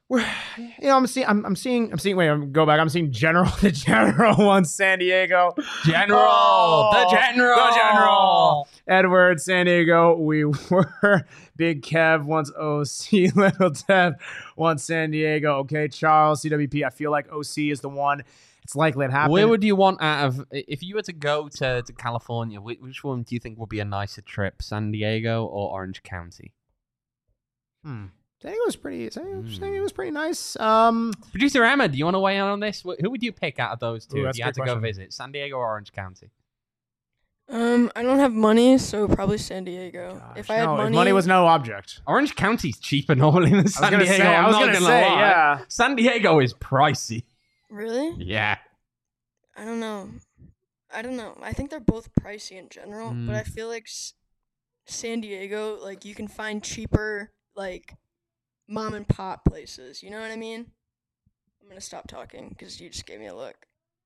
we're, you know, I'm seeing, I'm, I'm seeing, I'm seeing. Wait, I'm go back. I'm seeing General. The General wants San Diego. General, Oh, the General, the General. Edward, San Diego. We were. Big Kev wants O C. Little Dev wants San Diego. Okay, Charles, C W P. I feel like O C is the one. It's likely it happened. Where would you want out of if you were to go to, to California? Which, which one do you think would be a nicer trip, San Diego or Orange County? Hmm. San Diego was pretty. San Diego, Hmm. San Diego was pretty nice. Um, Producer Emma, do you want to weigh in on this? Wh- Who would you pick out of those two Ooh, if that's you a had good to go question. visit, San Diego or Orange County? Um, I don't have money, so probably San Diego. gosh, if I had no, money, if money was no object. Orange County's cheaper normally than I was San gonna Diego. say. I'm I was not gonna, gonna say. lie. Yeah. San Diego is pricey. really, Yeah. I don't know. I don't know. I think they're both pricey in general, Mm. but I feel like S- San Diego, like you can find cheaper, like mom and pop places. You know what I mean? I'm gonna stop talking because you just gave me a look.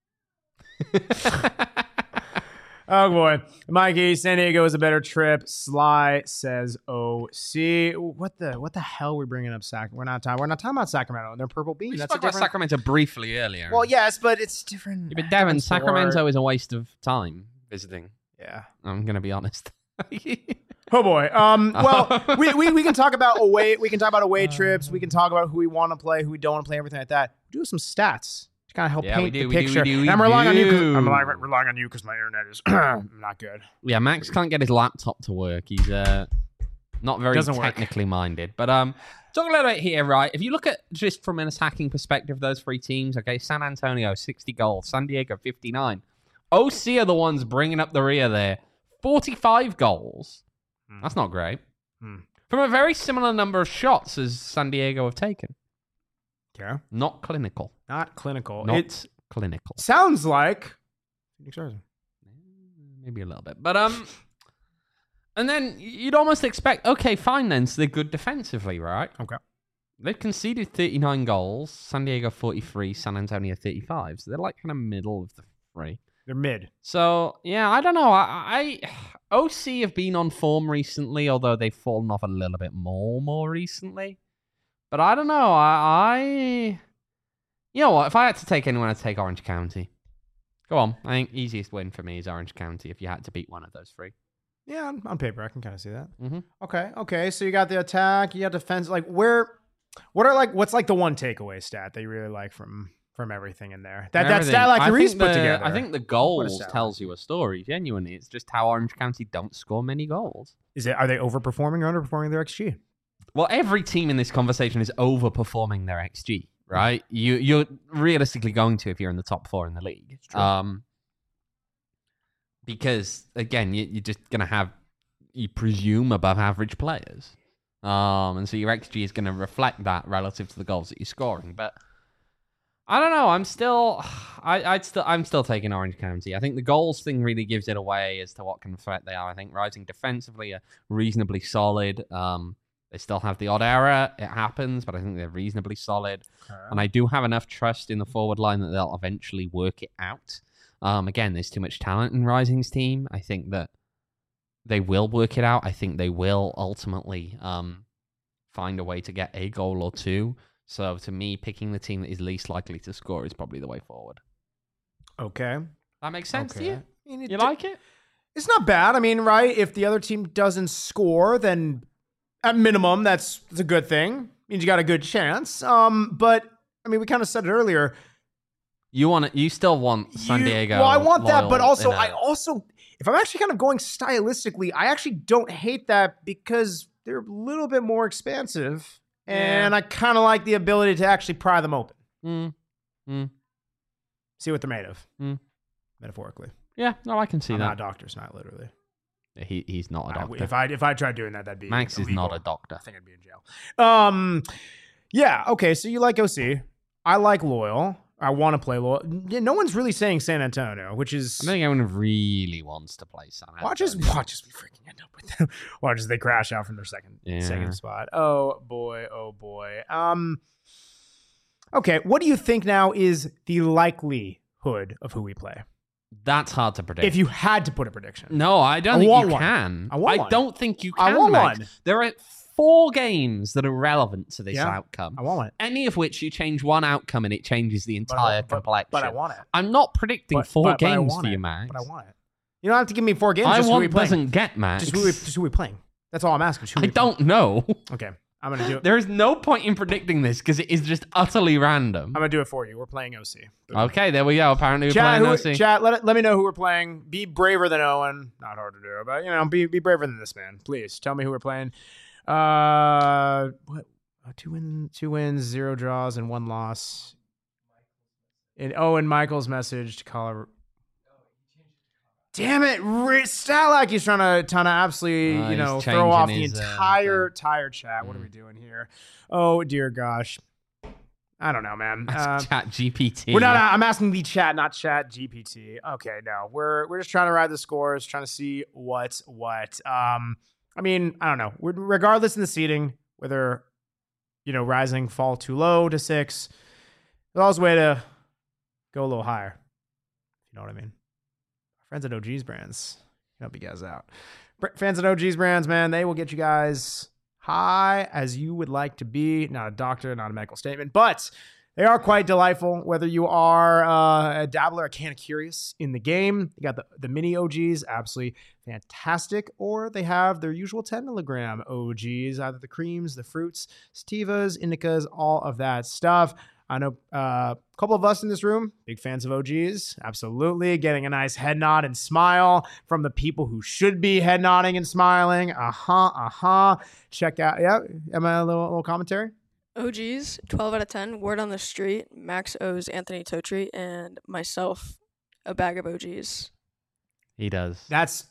Oh boy, Mikey, San Diego is a better trip. Sly says O C. What the what the hell are we bringing up Sac? We're not talking. We're not talking about Sacramento and their purple bean. We That's spoke a about different. Sacramento briefly earlier. Well, yes, but it's different. Yeah, but Devin, different sport. Sacramento is a waste of time visiting. Yeah. I'm gonna be honest. Oh boy. Um. Well, we, we we can talk about away. We can talk about away trips. We can talk about who we want to play, who we don't want to play, everything like that. Do some stats to kind of help Yeah, we paint do, the we do, we picture. do, we And I'm relying on you. 'cause- do. I'm relying, relying on you because my internet is not good. Yeah, Max can't get his laptop to work. He's uh not very Doesn't work. technically minded. But um, talk a little bit here, right? If you look at just from an attacking perspective, those three teams, okay, San Antonio sixty goals, San Diego fifty-nine. O C are the ones bringing up the rear there, forty-five goals. Hmm. That's not great. Hmm. From a very similar number of shots as San Diego have taken. Yeah. Not clinical. Not clinical. Not It clinical. sounds like. Phoenix Rising. Maybe a little bit. But um and then you'd almost expect, okay, fine then, so they're good defensively, right? Okay. They've conceded thirty-nine goals, San Diego forty-three, San Antonio thirty-five. So they're like kind of middle of the three. They're mid. So yeah, I don't know. I, I O C have been on form recently, although they've fallen off a little bit more more recently. But I don't know. I, I you know what? If I had to take anyone, I'd take Orange County. Go on. I think easiest win for me is Orange County if you had to beat one of those three. Yeah, on, on paper, I can kind of see that. Mm-hmm. Okay, okay. So you got the attack, you got defense. Like, where? What are like? What's like the one takeaway stat that you really like from from everything in there? That that Everything. stat like I Reese think put the- together. I think the What a goals stat tells you a story. Genuinely, it's just how Orange County don't score many goals. Is it? Are they overperforming or underperforming their X G? Well, every team in this conversation is overperforming their X G, right? You you're realistically going to if you're in the top four in the league. true. Um, because again, you, you're just gonna have, you presume, above average players. Um, and so your X G is going to reflect that relative to the goals that you're scoring. But I don't know. I'm still, I, I'd still, I'm still taking Orange County. I think the goals thing really gives it away as to what kind of threat they are. I think Rising defensively are reasonably solid. Um, they still have the odd error. It happens, but I think they're reasonably solid. And I do have enough trust in the forward line that they'll eventually work it out. Um, again, there's too much talent in Rising's team. I think that they will work it out. I think they will ultimately um, find a way to get a goal or two. So to me, picking the team that is least likely to score is probably the way forward. Okay. That makes sense okay. to you? I mean, it You d- like it? It's not bad. I mean, right? If the other team doesn't score, then at minimum, that's, that's a good thing. Means you got a good chance. Um, but I mean, we kind of said it earlier. You want it, You still want San You- Diego? Well, I want that, but loyal also, in a- I also, if I'm actually kind of going stylistically, I actually don't hate that because they're a little bit more expansive, and Yeah. I kind of like the ability to actually pry them open, Mm, see what they're made of, Mm. metaphorically. yeah, no, I can see I'm that. not doctors, not literally. He, he's not a I- doctor. if I if I tried doing that, that'd be Max is illegal. not a doctor. I think I'd be in jail. Um, yeah. Okay. So you like O C. I like Loyal. I want to play Loyal. Yeah, no one's really saying San Antonio, which is I don't think anyone really wants to play San Antonio. watch us watch us we freaking end up with them. Watch as they crash out from their second Yeah. second spot. Oh boy. Oh boy. Um. Okay. What do you think now is the likelihood of who we play? That's hard to predict. If you had to put a prediction, No, I don't I think want you one. can. I want one. don't think you I can. want Max. one. There are four games that are relevant to this Yeah, outcome. I want it. Any of which you change one outcome and it changes the But I- entire but- complexion. But I want it. I'm not predicting But- four but- but I games want for you, it. Max. But I want it. You don't have to give me four games. I just who we want playing. doesn't get Max. Just who, we, just who we playing. That's all I'm asking. Just who I we playing. don't know. Okay, I'm gonna do it. There is no point in predicting this because it is just utterly random. I'm gonna do it for you. We're playing O C. Okay, there we go. Apparently we're Chat, playing who, O C. chat let, it, let me know who we're playing. Be braver than Owen. Not hard to do, but you know, be be braver than this man. Please tell me who we're playing. Uh, what? Uh, two wins, two wins, zero draws, and one loss. And Owen Michael's message to Colorado. Damn it, R- Stalak, he's trying to, trying to absolutely, Oh, you know, he's throw off the changing his, uh, entire, thing. entire chat. What are Mm. we doing here? Oh, dear gosh. I don't know, man. Ask Uh, Chat G P T. we're not. I'm asking the chat, not Chat G P T. Okay, no, we're we're just trying to ride the scores, trying to see what's what. Um, I mean, I don't know. We're, regardless in the seeding, whether you know Rising fall too low to six, there's always a way to go a little higher. You know what I mean? Friends at O G's brands can help you guys out. Br- Fans at O G's brands, man, they will get you guys high as you would like to be. Not a doctor, not a medical statement, but they are quite delightful. Whether you are uh, a dabbler, a can of curious in the game, you got the, the mini O Gs, absolutely fantastic, or they have their usual ten milligram O Gs, either the creams, the fruits, sativas, indicas, all of that stuff. I know uh, a couple of us in this room, big fans of O Gs. Absolutely. Getting a nice head nod and smile from the people who should be head nodding and smiling. Uh-huh, uh-huh. Check out, yeah, am I a little, little commentary? O Gs, twelve out of ten. Word on the street. Max owes Anthony Totri and myself a bag of O Gs. He does. That's,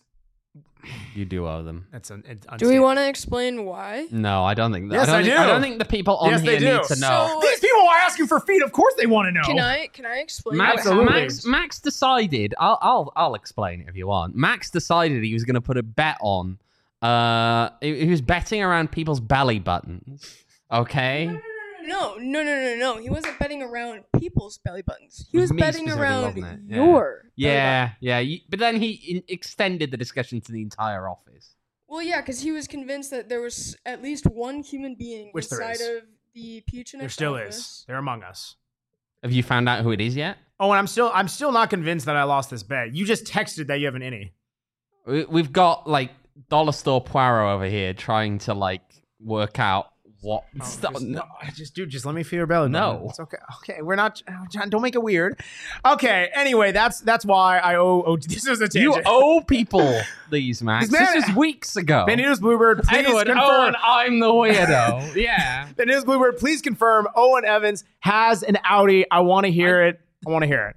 You do owe them. that's an, it's Do we want to explain why? No, I don't think that. Yes, I, don't I think, do. I don't think the people on Yes, they here need do. to know. So- These people are asking for feet. Of course they want to know. Can I can I explain? Max, what Absolutely. happened? Max, Max decided. I'll, I'll, I'll explain it if you want. Max decided he was going to put a bet on. Uh, he, he was betting around people's belly buttons. Okay. No, no, no, no, no. He wasn't betting around people's belly buttons. He It was, was me betting specifically, around wasn't it? Yeah. your. belly Yeah, button. yeah. You, but then he in, extended the discussion to the entire office. Well, yeah, because he was convinced that there was at least one human being Which there inside is. of the Peach and There still is. They're among us. Have you found out who it is yet? Oh, and I'm still, I'm still not convinced that I lost this bet. You just texted that you have an innie. We, we've got like Dollar Store Poirot over here trying to like work out what. Oh, Stop- just, no, I just, dude, just let me feel your belly. No. button. It's okay. Okay, we're not. oh, John, don't make it weird. Okay. Anyway, that's that's why I owe. Oh, this is a You tangent. owe people these, Max. This man- This is weeks ago. Benito's Bluebird, please Edward confirm. Owen, I'm the weirdo. Yeah. Benito's Bluebird, please confirm. Owen Evans has an Audi. I want to hear it. I want to hear it.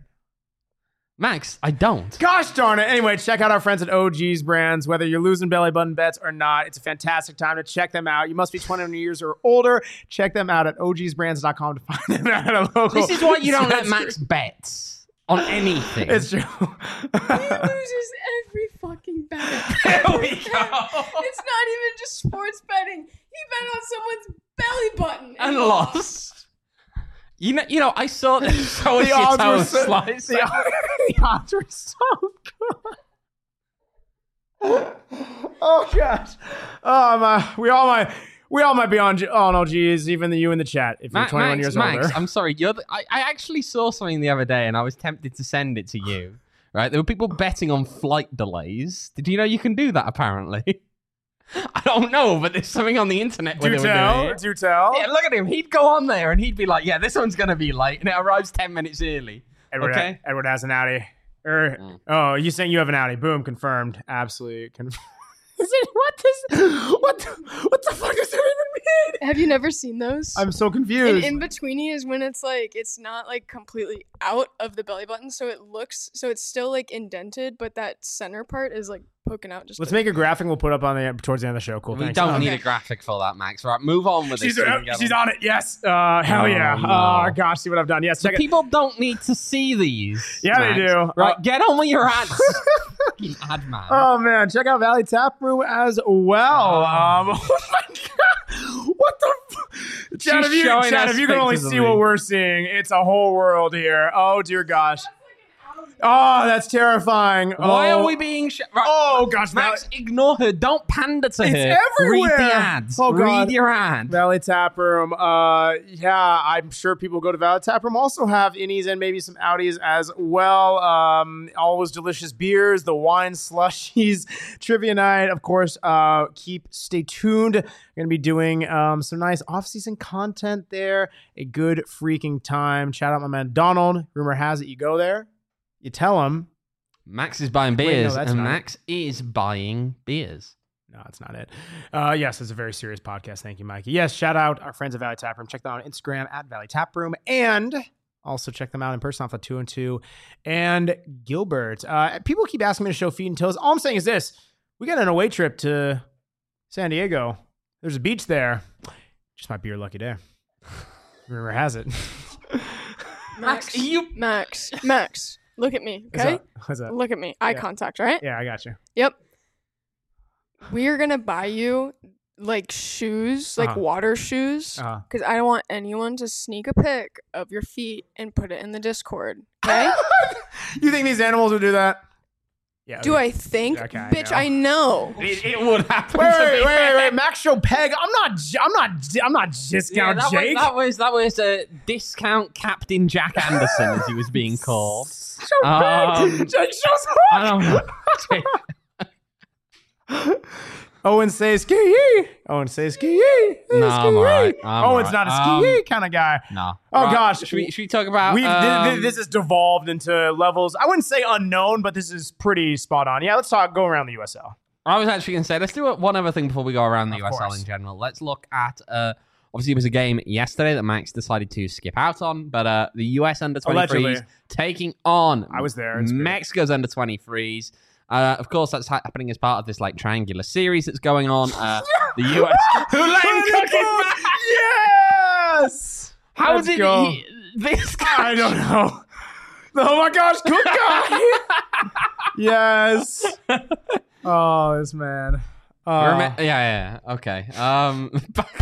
Max, I don't. Gosh darn it. Anyway, check out our friends at O G's Brands. Whether you're losing belly button bets or not, it's a fantastic time to check them out. You must be twenty-one years or older. Check them out at O Gs brands dot com to find them at a local. This is why you don't let dispensary. Max bets on anything. It's true. He loses every fucking bet. There we Every go. bet. It's not even just sports betting. He bet on someone's belly button and lost. You know, you know, I saw this. So The is your odds were toast so- slice. The, the odds were so good. Oh gosh. Oh my. We all might. We all might be on G- on O Gs, even the you in the chat. If you're Ma- twenty-one Max, years Max, older. I'm sorry. You're the, I, I actually saw something the other day, and I was tempted to send it to you. Right? There were people betting on flight delays. Did you know you can do that? Apparently. I don't know, but there's something on the internet where Do they were doing tell. it. Do tell. Yeah, look at him. He'd go on there and he'd be like, "Yeah, this one's gonna be late," and it arrives ten minutes early. Edward, Okay. Edward has an Audi. Er, Mm. Oh, you saying you have an Audi? Boom, confirmed. Absolutely confirmed. Is it what this? What the, what the fuck does that even mean? Have you never seen those? I'm so And confused. in betweeny is when it's like it's not like completely out of the belly button, so it looks so it's still like indented, but that center part is like poking out. Just Let's a- make a graphic. We'll put up on the towards the end of the show. Cool. We thanks. don't Okay. need a graphic for that, Max. Right, move on with She's, this. so we uh, can get she's on. on it. Yes. Uh, hell Oh, yeah. no. Oh gosh, see what I've done. Yes. So Check it. people don't need to see these. Yeah, they Max. do. Right, Uh, get on with your ads. Fucking ad man. Oh man, check out Valley Tap Room as well. Oh. Um, oh my god, what the? F- Chad, She's if you, showing Chad, us if you can only pictures of see me. what we're seeing, it's a whole world here. Oh dear gosh. Oh, that's terrifying. Why oh. are we being... Sh- right. Oh, gosh. Max, ignore her. Don't pander to It's her. everywhere. Read the ads. Oh, God. Read your ad. Valley Tap Room. Uh, yeah, I'm sure people go to Valley Tap Room. Also have innies and maybe some outies as well. Um, always delicious beers, the wine slushies, trivia night. Of course, uh, keep stay tuned. We're going to be doing um, some nice off-season content there. A good freaking time. Shout out my man Donald. Rumor has it you go there. You tell him. Max is buying Wait, no, beers, that's and not Max is buying beers. No, it's not it. Uh, yes, it's a very serious podcast. Thank you, Mikey. Yes, shout out our friends at Valley Tap Room. Check them out on Instagram at Valley Tap Room. And also check them out in person off of two and two and Gilbert. Uh, people keep asking me to show feet and toes. All I'm saying is this. We got an away trip to San Diego. There's a beach there. Just might be your lucky day. Rumor has it. Max, you- Max, Max, look at me, What's okay? up? What's up? Look at me. Eye Yeah. contact, right? Yeah, I got you. Yep. We're gonna buy you like shoes, like Uh-huh. water shoes, Uh, because I don't want anyone to sneak a pic of your feet and put it in the Discord. Okay? you think these animals would do that? Yeah. Do I think, Okay, I bitch? know. I know. It, it would happen. Wait, to wait, me. wait, wait, wait. Max show Peg. I'm not. j- I'm not. j- I'm not Yeah, discount that, was, Jake. that was that was a discount Captain Jack Anderson, as he was being called. Show Um, Peg. Jake shows I don't know. Owen says ski yee. Owen says ski yee. No, I'm alright. I'm Owen's alright. not a ski Um, yee kind of guy. No. Oh, gosh. Should we, should we talk about? We th- um, th- this has devolved into levels. I wouldn't say unknown, but this is pretty spot on. Yeah, let's talk. Go around the U S L. I was actually going to say, let's do one other thing before we go around the Of U S L course. in general. Let's look at, uh, obviously, it was a game yesterday that Max decided to skip out on, but uh, the U S under twenty-threes Allegedly. taking on I was there. It's great. Mexico's under twenty-threes. Uh, of course, that's ha- happening as part of this like triangular series that's going on. Uh, the U S Who let him cook his man? Yes. How Let's did go. he, this guy? I don't know. Oh my gosh, cook guy. Yes. Oh, this man. Uh, Remi- yeah, yeah, okay. Um, back,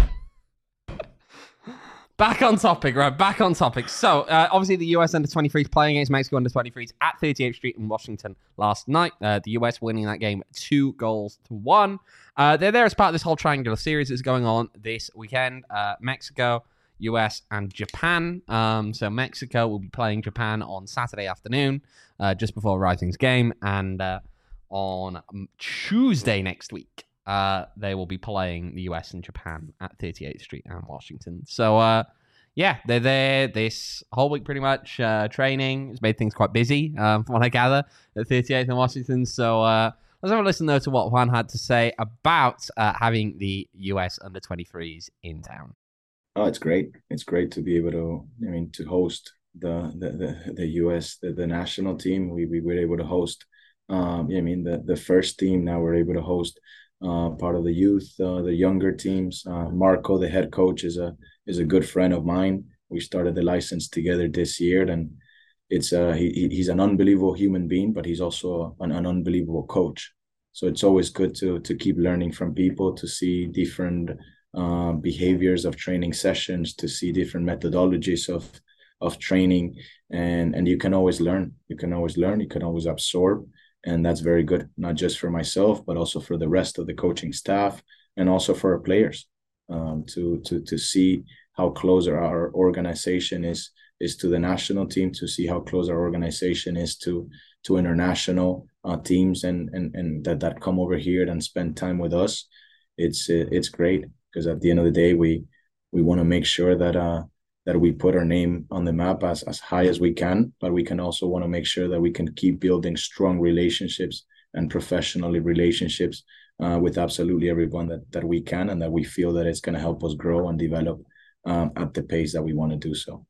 back on topic, right? Back on topic. So, uh, obviously, the U S under twenty-threes playing against Mexico under twenty-threes at thirty-eighth Street in Washington last night. Uh, the U S winning that game two goals to one. Uh, they're there as part of this whole triangular series that's going on this weekend. Uh, Mexico, U S, and Japan. Um, so Mexico will be playing Japan on Saturday afternoon, uh, just before Rising's game, and uh, on um, Tuesday next week, uh, they will be playing the U S and Japan at thirty-eighth Street and Washington. So, uh, yeah, they're there this whole week pretty much. Uh, training has made things quite busy, um, from what I gather, at thirty-eighth and Washington. So, uh, let's have a listen, though, to what Juan had to say about uh, having the U S under twenty-threes in town. Oh, it's great. It's great to be able to, I mean, to host the the the, the U S, the, the national team. We, we were able to host, um, yeah, I mean, the, the first team. Now we're able to host uh, part of the youth, uh, the younger teams. Uh, Marco, the head coach, is a is a good friend of mine. We started the license together this year, and it's uh, he he's an unbelievable human being, but he's also an, an unbelievable coach. So it's always good to to keep learning from people, to see different uh, behaviors of training sessions, to see different methodologies of of training, and and you can always learn. You can always learn. You can always absorb, and that's very good, not just for myself, but also for the rest of the coaching staff, and also for our players, um, to to to see how close our organization is is to the national team, to see how close our organization is to to international uh, teams, and and and that that come over here and spend time with us. It's it's great, because at the end of the day, we we want to make sure that uh that we put our name on the map as as high as we can, but we can also want to make sure that we can keep building strong relationships and professionally relationships uh, with absolutely everyone that that we can, and that we feel that it's going to help us grow and develop um, at the pace that we want to do so.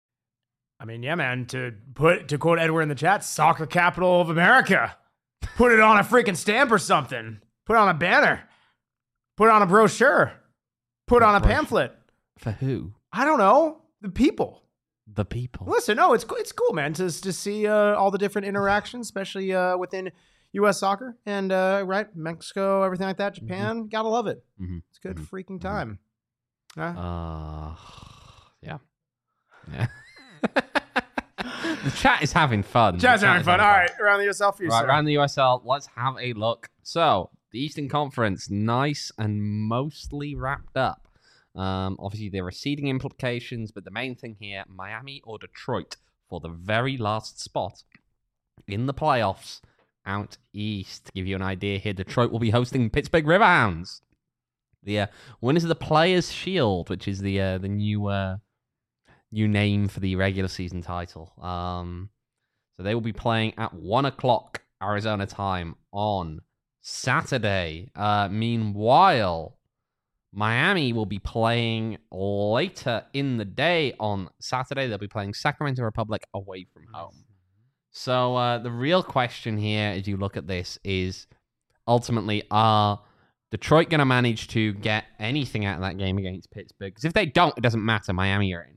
I mean, yeah, man. To put to quote Edward in the chat, soccer capital of America. Put it on a freaking stamp or something. Put it on a banner. Put it on a brochure. Put it on a brochure. pamphlet. For who? I don't know. The people. The people. Listen, no, it's it's cool, man, to to see uh, all the different interactions, especially uh, within U S soccer and uh, right, Mexico, everything like that. Japan, gotta love it. Mm-hmm. It's a good Mhm. freaking time. Huh? Uh, yeah. Yeah. The chat is having fun. The Chat's chat having is fun. All right, around the U S L for you, Right, sir. around the U S L, let's have a look. So, the Eastern Conference, nice and mostly wrapped up. Um, obviously, there are seeding implications, but the main thing here, Miami or Detroit for the very last spot in the playoffs out east. To give you an idea here, Detroit will be hosting Pittsburgh Riverhounds. The uh, winners of the Players' Shield, which is the uh, the new uh, new name for the regular season title. Um, so they will be playing at one o'clock Arizona time on Saturday. Uh, meanwhile, Miami will be playing later in the day on Saturday. They'll be playing Sacramento Republic away from home. So uh, the real question here, as you look at this, is ultimately, are Detroit going to manage to get anything out of that game against Pittsburgh? Because if they don't, it doesn't matter. Miami are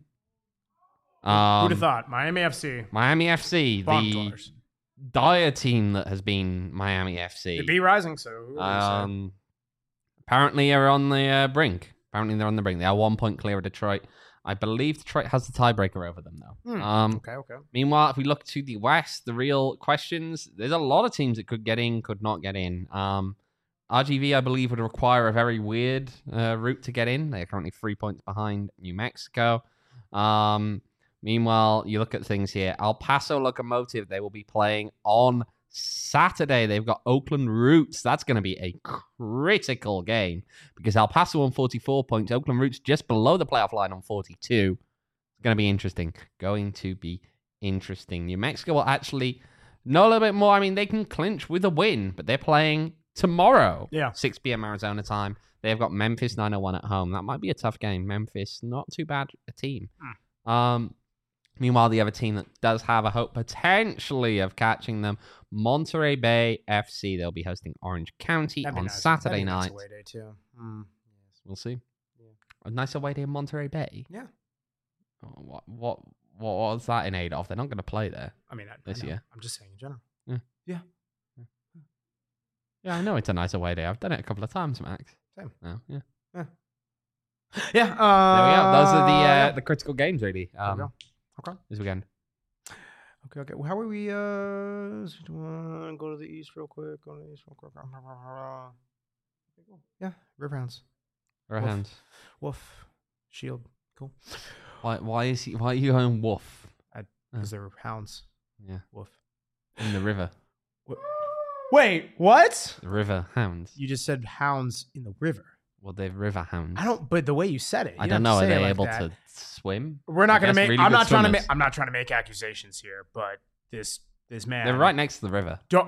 in. Um, Who'd have thought? Miami F C. Miami F C, Bomb the dwellers. dire team that has been Miami F C. They beat Rising, so who would have said? Um, apparently are on the uh, brink. Apparently they're on the brink. They are one point clear of Detroit. I believe Detroit has the tiebreaker over them, though. Hmm. Um, Okay, okay. Meanwhile, if we look to the West, the real questions, there's a lot of teams that could get in, could not get in. Um, R G V, I believe, would require a very weird uh, route to get in. They're currently three points behind New Mexico. Um, meanwhile, you look at things here. El Paso Locomotive, they will be playing on Saturday. They've got Oakland Roots. That's going to be a critical game because El Paso on forty-four points, Oakland Roots just below the playoff line on forty-two. It's going to be interesting. Going to be interesting. New Mexico will actually know a little bit more. I mean, they can clinch with a win, but they're playing tomorrow. Yeah. six p.m. Arizona time. They've got Memphis nine oh one at home. That might be a tough game. Memphis, not too bad a team. Mm. Um, meanwhile, the other team that does have a hope potentially of catching them, Monterey Bay F C. They'll be hosting Orange County That'd be on nice. Saturday That'd be a nice night. away day too. Mm. We'll see. Yeah. A nice away day in Monterey Bay. Yeah. Oh, what what what was that in aid of? They're not going to play there. I mean, I, This I know. year. I'm just saying in general. Yeah, I know it's a nice away day. I've done it a couple of times, Max. Same. Oh, yeah. Yeah. Uh, There we go. Those are the uh, yeah. the critical games, really. There we Um, go. Okay. this weekend. Okay. Okay. Well, how are we? Uh, so do you wanna go to the east real quick. Go to the east real quick. Yeah. Riverhounds. Our Woof. hands. Wolf. Shield. Cool. Why? Why is he? Why are you going wolf Because they're hounds. Yeah. Wolf. in the river? Wait. What? The river hounds. You just said hounds in the river. Well, they're river hounds. I don't. But the way you said it. I you don't have know. to Are say it they like able that. to swim? We're not I gonna guess make. really I'm good not trying to make. swimmers. I'm not trying to make accusations here, but this this man. They're right next to the river. Don't.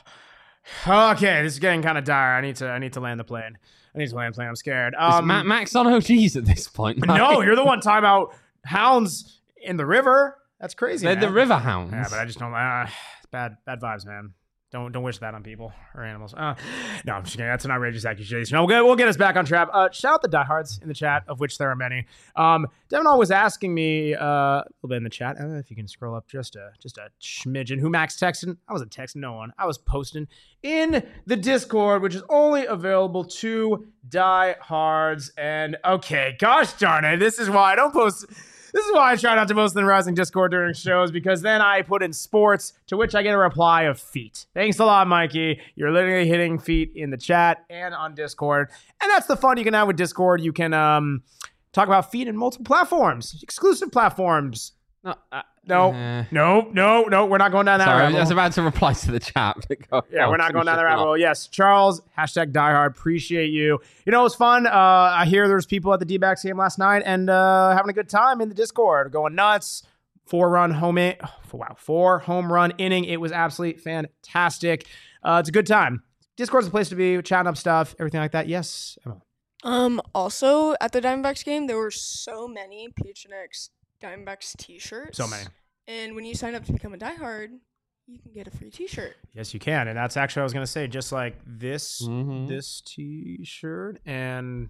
Okay, this is getting kind of dire. I need to. I need to land the plane. I need to land the plane. I'm scared. Is Um, Ma- Max on O Gs at this point. no, you're the one talking about hounds in the river. That's crazy. They're man. the river hounds. Yeah, but I just don't. Uh, it's bad. Bad vibes, man. Don't don't wish that on people or animals. Uh, no, I'm just kidding. That's an outrageous accusation. No, we'll get, we'll get us back on track. Uh, shout out the diehards in the chat, of which there are many. Um, Devin was asking me uh, a little bit in the chat. Uh, if you can scroll up just a just a smidgen. Who Max texting? I wasn't texting no one. I was posting in the Discord, which is only available to diehards. And okay, gosh darn it, this is why I don't post. This is why I try not to post in the Rising Discord during shows, because then I put in sports, to which I get a reply of feet. Thanks a lot, Mikey. You're literally hitting feet in the chat and on Discord. And that's the fun you can have with Discord. You can um, talk about feet in multiple platforms, exclusive platforms. No, uh, No, uh, no, no, no. We're not going down that sorry, I rabbit was hole. about to reply to the chat. but go- Yeah, oh, we're not going finish down the it rabbit off. hole. Yes, Charles, hashtag diehard. Appreciate you. You know, it was fun. Uh, I hear there's people at the D-backs game last night and uh, having a good time in the Discord, going nuts. Four run home in, oh, wow, four home run inning. It was absolutely fantastic. Uh, it's a good time. Discord's the place to be, chatting up stuff, everything like that. Yes, Emma. Um. Also, at the Diamondbacks game, there were so many P H N X Diamondbacks T-shirts. So many. And when you sign up to become a diehard, you can get a free T-shirt. Yes, you can, and that's actually what I was gonna say. Just like this, Mhm. this T-shirt and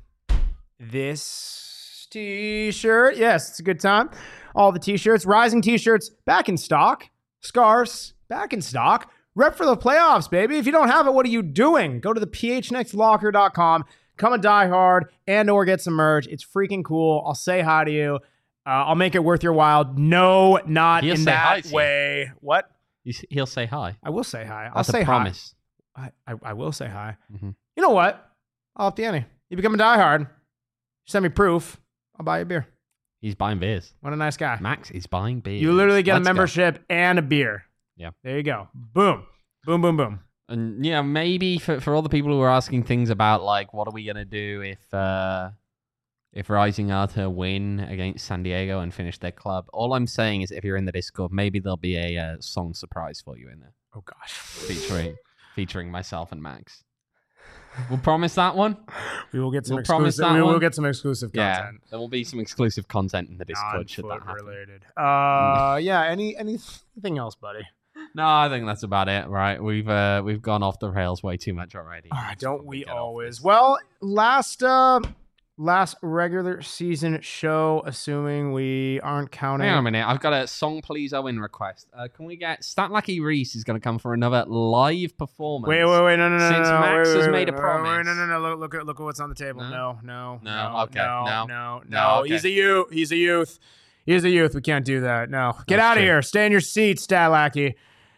this T-shirt. Yes, it's a good time. All the T-shirts, Rising T-shirts, back in stock. Scarves, back in stock. Rep for the playoffs, baby. If you don't have it, what are you doing? Go to the p h n x locker dot com, come a diehard, and or get some merch. It's freaking cool. I'll say hi to you. Uh, I'll make it worth your while. No, not He'll in say hi that to you. way. What? You s- He'll say hi. I will say hi. I'll That's say a promise. hi. I, I, I will say hi. Mhm. You know what? I'll up the ante. You become a diehard. Send me proof. I'll buy you a beer. He's buying beers. What a nice guy. Max is buying beers. You literally get Let's a go. membership and a beer. Yeah. There you go. Boom. Boom, boom, boom. And yeah, maybe for, for all the people who are asking things about like what are we gonna do if uh if Rising are to win against San Diego and finish their club, all I'm saying is if you're in the Discord, maybe there'll be a uh, song surprise for you in there Oh, gosh. featuring featuring myself and Max. We'll promise that one. We will get some We'll promise exclusive. that We will one. get some exclusive Yeah, content. there will be some exclusive content in the Discord should that Non-foot happen. related. Uh, yeah. Any anything else, buddy? No, I think that's about it. Right, we've uh, we've gone off the rails way too much already. All right, Let's don't probably we get off always? this. Well, last uh, last regular season show, assuming we aren't counting. Hang on a minute. I've got a song please Owen request. Uh, can we get Stat Lucky Reese is going to come for another live performance? Wait, wait, wait, no, no, no, Since no, no, Max wait, has wait, made a wait, promise. Wait, no, no, no, look, look at look at what's on the table. No? No, no, No, no, okay, no, no. no, no. No, okay. He's a youth. He's a youth. He's a youth. We can't do that. No, get That's out of true. here. Stay in your seat, Stat Lackey.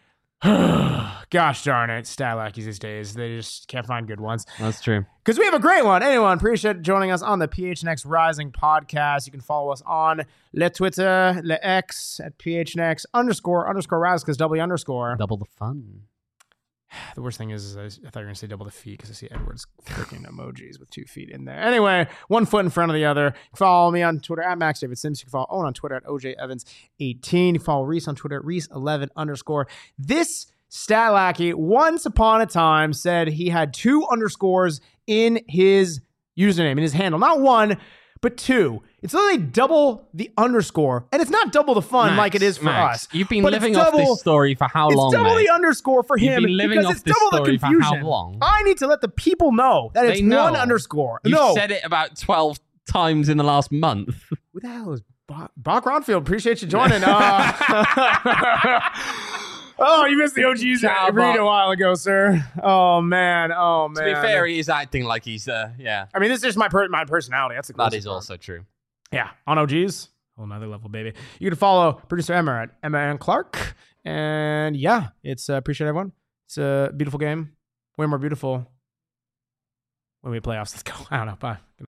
Gosh darn it, Stat Lackeys these days. They just can't find good ones. That's true. Because we have a great one. Anyone, appreciate joining us on the P H N X Rising podcast. You can follow us on Le Twitter, Le X at P H N X underscore underscore Rise because W underscore. Double the fun. The worst thing is, is I, I thought you were going to say double the feet because I see Edward's freaking emojis with two feet in there. Anyway, one foot in front of the other. You can follow me on Twitter at Max David Sims. You can follow Owen on Twitter at O J Evans eighteen. You can follow Reese on Twitter at Reese eleven underscore. This Stat Lackey, once upon a time, said he had two underscores in his username, in his handle. Not one, but two. It's literally double the underscore. And it's not double the fun Max, like it is for Max, us. You've been but living it's off double- this story for how It's long, double mate? the underscore for You've him been living because off it's this double the story for how confusion. long? I need to let the people know that They it's know. one underscore. You've no. said it about twelve times in the last month. Who the hell is Bach, Bach Ronfield? Appreciate you joining. Uh, oh, you missed the O Gs Ciao, read Bach. a while ago, sir. Oh, man. Oh, man. To be fair, he is acting like he's, uh, yeah. I mean, this is just my per- my personality. That's the That closest is one. also true. Yeah, on O Gs. Whole nother level, baby. You can follow producer Emma at Emma and Clark. And yeah, it's uh, appreciate everyone. It's a beautiful game. Way more beautiful when we playoffs. Let's go. I don't know. Bye.